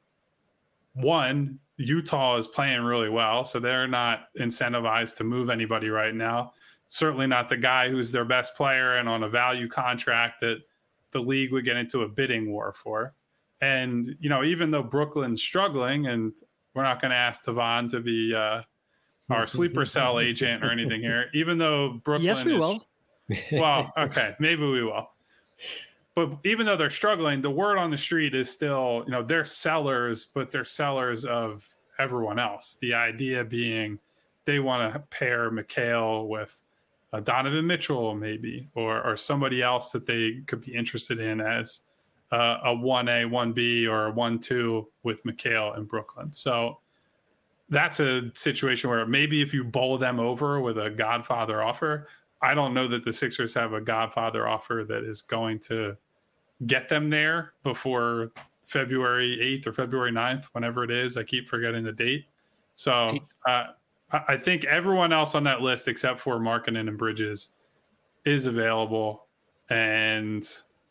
one, Utah is playing really well, so they're not incentivized to move anybody right now. Certainly not the guy who's their best player and on a value contract that the league would get into a bidding war for. And, you know, even though Brooklyn's struggling, and we're not going to ask Tavon to be uh, our sleeper cell agent or anything here, even though Brooklyn Yes, we is, will. well, okay, maybe we will. But even though they're struggling, the word on the street is still, you know, they're sellers, but they're sellers of everyone else. The idea being they want to pair Mikal with uh, Donovan Mitchell, maybe, or or somebody else that they could be interested in as uh, a one A, one B, or a one two with Mikal in Brooklyn. So that's a situation where maybe if you bowl them over with a Godfather offer, I don't know that the Sixers have a Godfather offer that is going to get them there before February eighth or February ninth, whenever it is. I keep forgetting the date. So uh, I think everyone else on that list, except for Markkanen and Bridges, is available. And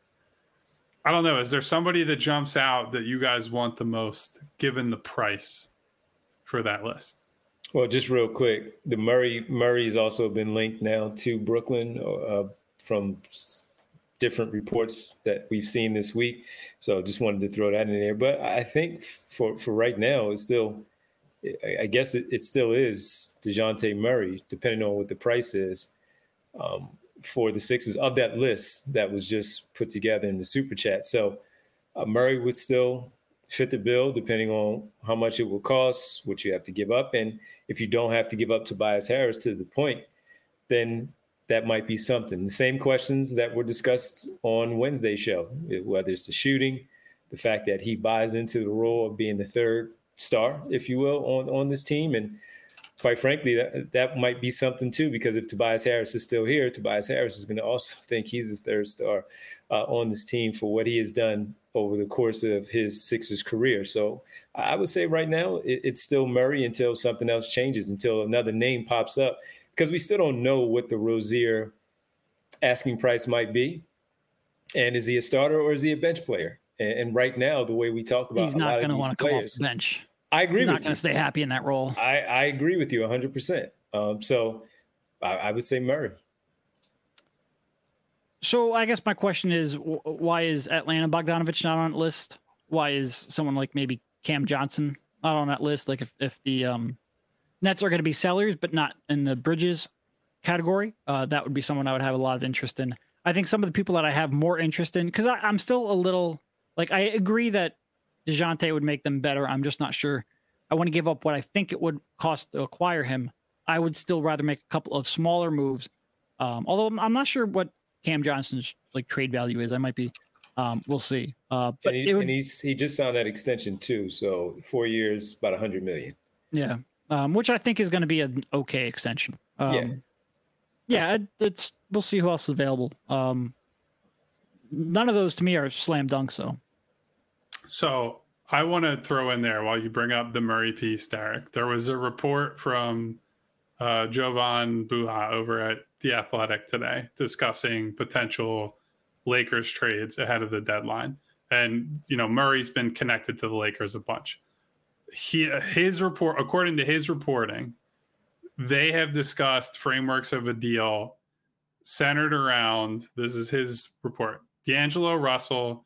I don't know, is there somebody that jumps out that you guys want the most, given the price for that list? Well, just real quick, the Murray Murray's also been linked now to Brooklyn uh, from s- different reports that we've seen this week. So just wanted to throw that in there. But I think for, for right now, it's still, I guess it, it still is DeJounte Murray, depending on what the price is um, for the Sixers of that list that was just put together in the Super Chat. So uh, Murray would still fit the bill, depending on how much it will cost, what you have to give up. And if you don't have to give up Tobias Harris to the point, then that might be something. The same questions that were discussed on Wednesday's show, whether it's the shooting, the fact that he buys into the role of being the third star, if you will, on, on this team. And quite frankly, that, that might be something too, because if Tobias Harris is still here, Tobias Harris is going to also think he's the third star uh, on this team for what he has done over the course of his Sixers career. So I would say right now it, it's still Murray until something else changes, until another name pops up, because we still don't know what the Rozier asking price might be. And is he a starter or is he a bench player? And, and right now, the way we talk about He's a not lot going to of these want to come off players, the bench. I agree He's with not going you. to stay happy in that role. I, I agree with you one hundred percent. Um, so I, I would say Murray. So I guess my question is, wh- why is Atlanta Bogdanovich not on that list? Why is someone like maybe Cam Johnson not on that list? Like if, if the um, Nets are going to be sellers, but not in the Bridges category, uh, that would be someone I would have a lot of interest in. I think some of the people that I have more interest in, because I'm still a little, like, I agree that DeJounte would make them better. I'm just not sure I want to give up what I think it would cost to acquire him. I would still rather make a couple of smaller moves. Um, although I'm, I'm not sure what Cam Johnson's like trade value is. I might be, um, we'll see. Uh, but and, he, it would, and he's he just signed that extension too. So four years, about a hundred million. yeah, um, which I think is going to be an okay extension. Um, Yeah. Yeah, it, it's we'll see who else is available. Um, none of those to me are slam dunks, though. So I want to throw in there while you bring up the Murray piece, Derek. There was a report from uh, Jovan Buha over at The Athletic today discussing potential Lakers trades ahead of the deadline. And, you know, Murray's been connected to the Lakers a bunch. He, his report, according to his reporting, they have discussed frameworks of a deal centered around, this is his report, D'Angelo Russell,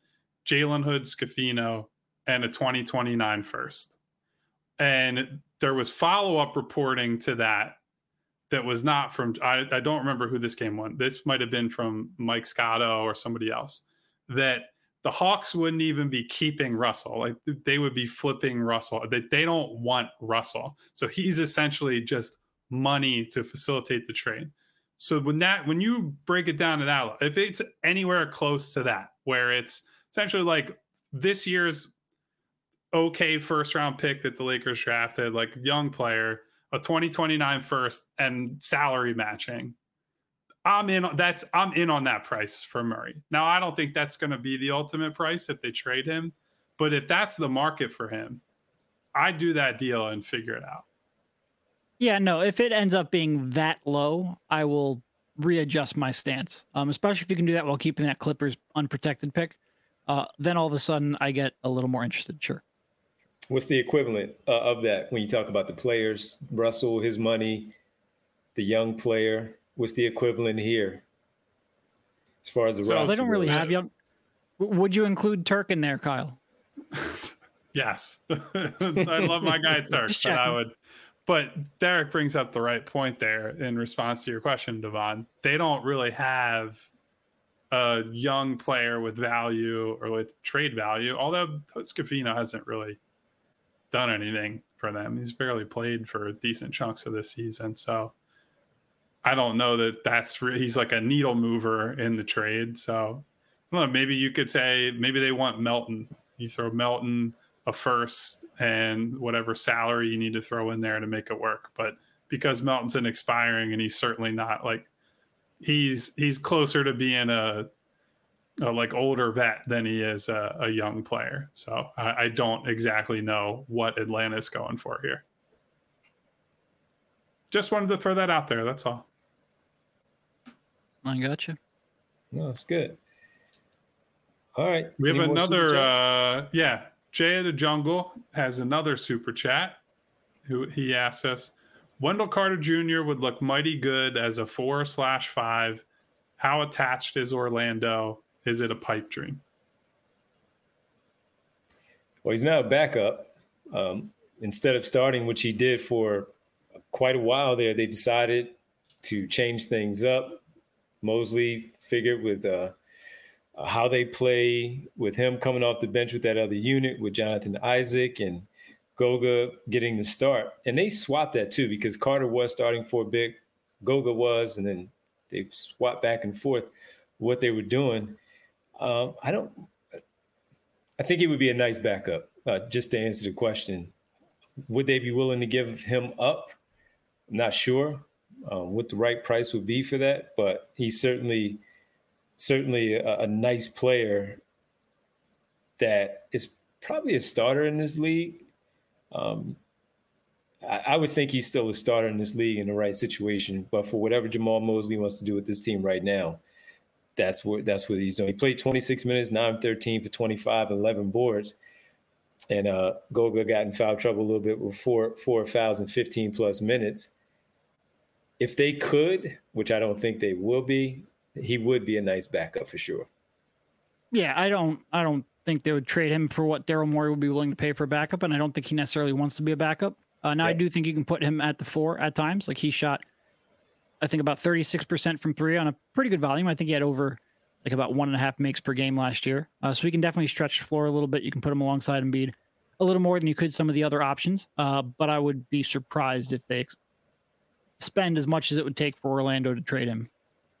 Jalen Hood Scafino, and a twenty twenty-nine first. And there was follow-up reporting to that that was not from, I, I don't remember who this came on. This might have been from Mike Scotto or somebody else, that the Hawks wouldn't even be keeping Russell. Like they would be flipping Russell. They, they don't want Russell. So he's essentially just money to facilitate the trade. So when that, when you break it down to that, if it's anywhere close to that, where it's essentially like this year's okay first round pick that the Lakers drafted, like young player, a twenty twenty-nine first, and salary matching, I'm in. That's I'm in on that price for Murray. Now I don't think that's going to be the ultimate price if they trade him, but if that's the market for him, I do that deal and figure it out. Yeah, no, if it ends up being that low, I will readjust my stance. Um, especially if you can do that while keeping that Clippers unprotected pick. Uh, then all of a sudden I get a little more interested. Sure. What's the equivalent uh, of that when you talk about the players, Russell, his money, the young player? What's the equivalent here as far as the so roster? They don't really goes? have young. Would you include Turk in there, Kyle? Yes. I love my guy Turk, but I would. But Derek brings up the right point there in response to your question, Devon. They don't really have a young player with value or with trade value, although Scafino hasn't really done anything for them. He's barely played for decent chunks of this season. So I don't know that that's re- he's like a needle mover in the trade. So I don't know, maybe you could say maybe they want Melton. You throw Melton a first and whatever salary you need to throw in there to make it work. But because Melton's an expiring and he's certainly not like he's he's closer to being a A, like older vet than he is a, a young player. So I, I don't exactly know what Atlanta's going for here. Just wanted to throw that out there. That's all. I gotcha. No, it's good. All right. We have another, uh, yeah. Jay of the Jungle has another super chat. Who he asks us, Wendell Carter Junior would look mighty good as a four slash five. How attached is Orlando? Is it a pipe dream? Well, he's now a backup. Um, instead of starting, which he did for quite a while there, they decided to change things up. Mosley figured with uh, how they play, with him coming off the bench with that other unit, with Jonathan Isaac and Goga getting the start. And they swapped that too, because Carter was starting for a bit, Goga was, and then they swapped back and forth what they were doing. Um, I don't. I think it would be a nice backup. Uh, just to answer the question, would they be willing to give him up? I'm not sure um, what the right price would be for that, but he's certainly, certainly a, a nice player that is probably a starter in this league. Um, I, I would think he's still a starter in this league in the right situation, but for whatever Jamal Mosley wants to do with this team right now, That's what that's what he's doing. He played twenty-six minutes, nine thirteen for twenty-five, eleven boards. And uh, Goga got in foul trouble a little bit with four, four fouls and fifteen plus minutes. If they could, which I don't think they will be, he would be a nice backup for sure. Yeah, I don't I don't think they would trade him for what Daryl Morey would be willing to pay for a backup, and I don't think he necessarily wants to be a backup. Uh, now, yeah. I do think you can put him at the four at times. Like he shot I think about thirty-six percent from three on a pretty good volume. I think he had over like about one and a half makes per game last year. Uh, so he can definitely stretch the floor a little bit. You can put him alongside Embiid a little more than you could some of the other options. Uh, but I would be surprised if they ex- spend as much as it would take for Orlando to trade him.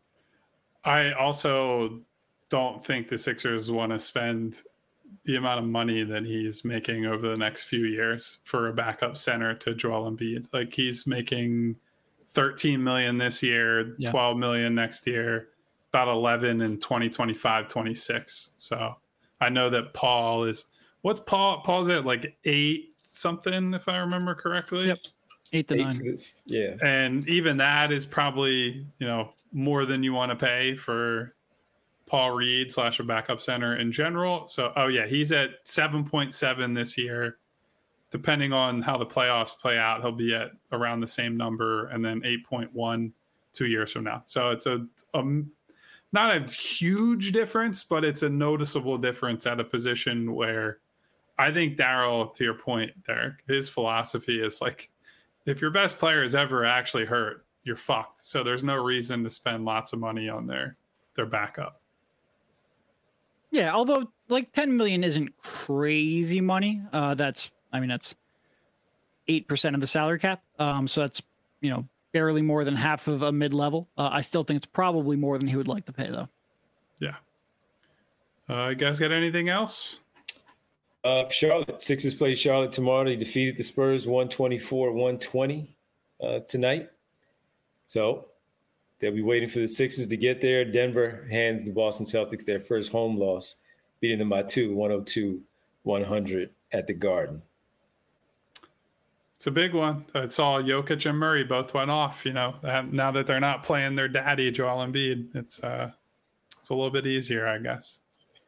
I also don't think the Sixers want to spend the amount of money that he's making over the next few years for a backup center to Joel Embiid. Like he's making thirteen million this year, yeah. twelve million next year, about eleven in twenty twenty-five, twenty-six. So I know that Paul is, what's Paul? Paul's at like eight something, if I remember correctly. Yep. Eight to eight nine. The, yeah. And even that is probably, you know, more than you want to pay for Paul Reed slash a backup center in general. So, oh yeah, he's at seven point seven this year. Depending on how the playoffs play out, he'll be at around the same number, and then eight point one two years from now. So it's a, a not a huge difference, but it's a noticeable difference at a position where I think Daryl, to your point, Derek, his philosophy is like, if your best player is ever actually hurt, you're fucked. So there's no reason to spend lots of money on their their backup. Yeah, although like ten million isn't crazy money. Uh, that's I mean that's eight percent of the salary cap. Um, so that's you know barely more than half of a mid level. Uh, I still think it's probably more than he would like to pay though. Yeah. Uh, you guys got anything else? Uh, Charlotte Sixers play Charlotte tomorrow. They defeated the Spurs one twenty-four one twenty uh, tonight. So they'll be waiting for the Sixers to get there. Denver hands the Boston Celtics their first home loss, beating them by two, one oh two one hundred at the Garden. It's a big one. I saw Jokic and Murray both went off. You know, now that they're not playing their daddy, Joel Embiid, it's uh, it's a little bit easier, I guess.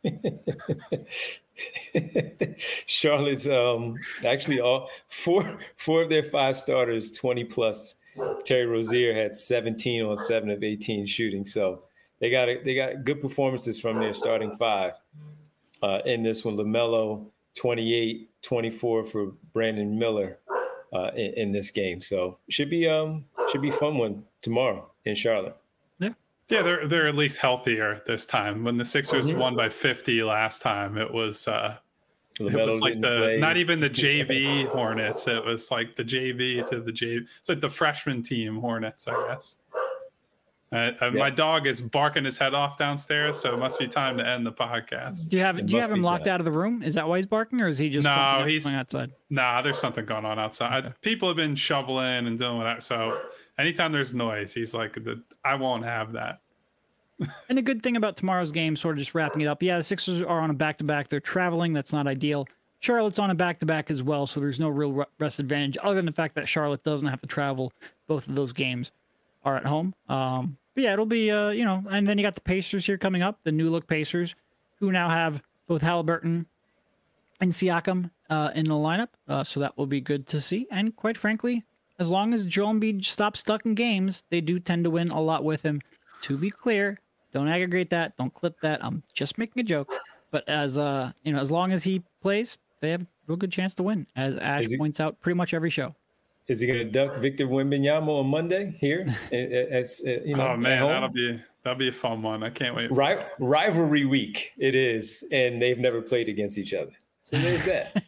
Charlotte's um, actually all four four of their five starters, twenty plus. Terry Rozier had seventeen on seven of eighteen shooting, so they got a, they got good performances from their starting five. Uh, in this one, LaMelo twenty-eight, twenty-four for Brandon Miller uh, in, in this game. So should be um should be a fun one tomorrow in Charlotte. Yeah, they're they're at least healthier this time. When the Sixers mm-hmm. won by fifty last time, it was uh, it was like the play. Not even the J V Hornets. It was like the J V to the J V. It's like the freshman team Hornets, I guess. Uh, yeah. My dog is barking his head off downstairs, so it must be time to end the podcast. Do you have it Do you have him locked time. out of the room? Is that why he's barking, or is he just no? He's outside. Nah, there's something going on outside. Okay. People have been shoveling and doing whatever. So anytime there's noise, he's like, the, I won't have that. And the good thing about tomorrow's game, sort of just wrapping it up, yeah, the Sixers are on a back-to-back. They're traveling. That's not ideal. Charlotte's on a back-to-back as well, so there's no real rest advantage other than the fact that Charlotte doesn't have to travel. Both of those games are at home. Um, but yeah, it'll be, uh, you know, and then you got the Pacers here coming up, the new-look Pacers, who now have both Halliburton and Siakam uh, in the lineup, uh, so that will be good to see. And quite frankly, as long as Joel Embiid stops stuck in games, they do tend to win a lot with him. To be clear, don't aggregate that. Don't clip that. I'm just making a joke. But as uh, you know, as long as he plays, they have a real good chance to win, as Ash he, points out pretty much every show. Is he going to duck Victor Wembanyama on Monday here? As, uh, you know, oh man, that'll be that'll be a fun one. I can't wait. Ri- rivalry week it is, and they've never played against each other. So there's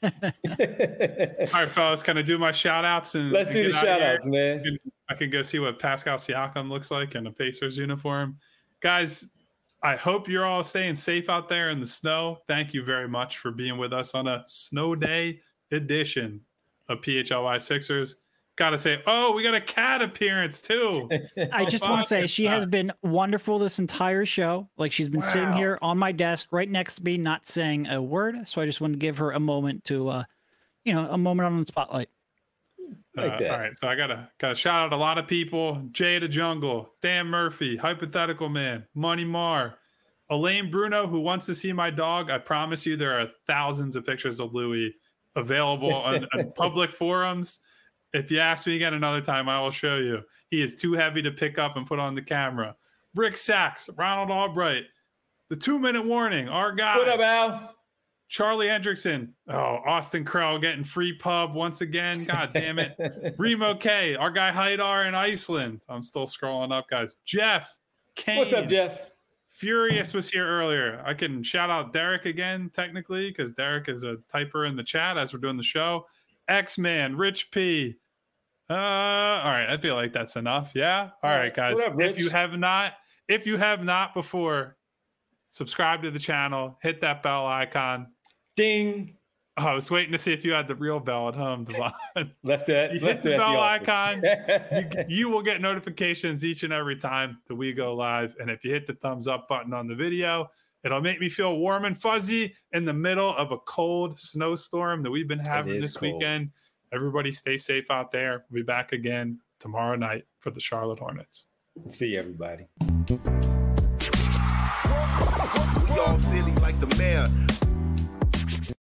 that. All right, fellas, can I do my shout outs? And, Let's and do the shout outs, man. I can, I can go see what Pascal Siakam looks like in a Pacers uniform. Guys, I hope you're all staying safe out there in the snow. Thank you very much for being with us on a snow day edition of P H L Y Sixers. Got to say, oh, we got a cat appearance too. I just want to say she has been wonderful this entire show. Like she's been wow. sitting here on my desk right next to me, not saying a word. So I just wanted to give her a moment to, uh, you know, a moment on the spotlight. Like uh, all right, so I gotta gotta shout out a lot of people: Jay the Jungle, Dan Murphy, Hypothetical Man, Money Mar, Elaine Bruno, who wants to see my dog. I promise you, there are thousands of pictures of Louis available on, on public forums. If you ask me again another time, I will show you. He is too heavy to pick up and put on the camera. Rick Sachs, Ronald Albright, the two-minute warning, our guy. What up, Al? Charlie Hendrickson. Oh, Austin Krell getting free pub once again. God damn it. Remo K, our guy Haidar in Iceland. I'm still scrolling up, guys. Jeff Kane. What's up, Jeff? Furious was here earlier. I can shout out Derek again, technically, because Derek is a typer in the chat as we're doing the show. X-Man, Rich P. Uh, all right, I feel like that's enough. Yeah. All right, guys. What up, Rich? If you have not, if you have not before, subscribe to the channel, hit that bell icon. Ding. Oh, I was waiting to see if you had the real bell at home, Devon. left it. You left hit the it bell the icon. you, you will get notifications each and every time that we go live. And if you hit the thumbs up button on the video, it'll make me feel warm and fuzzy in the middle of a cold snowstorm that we've been having this cold. weekend. Everybody stay safe out there. We'll be back again tomorrow night for the Charlotte Hornets. See you, everybody. Y'all silly like the mayor.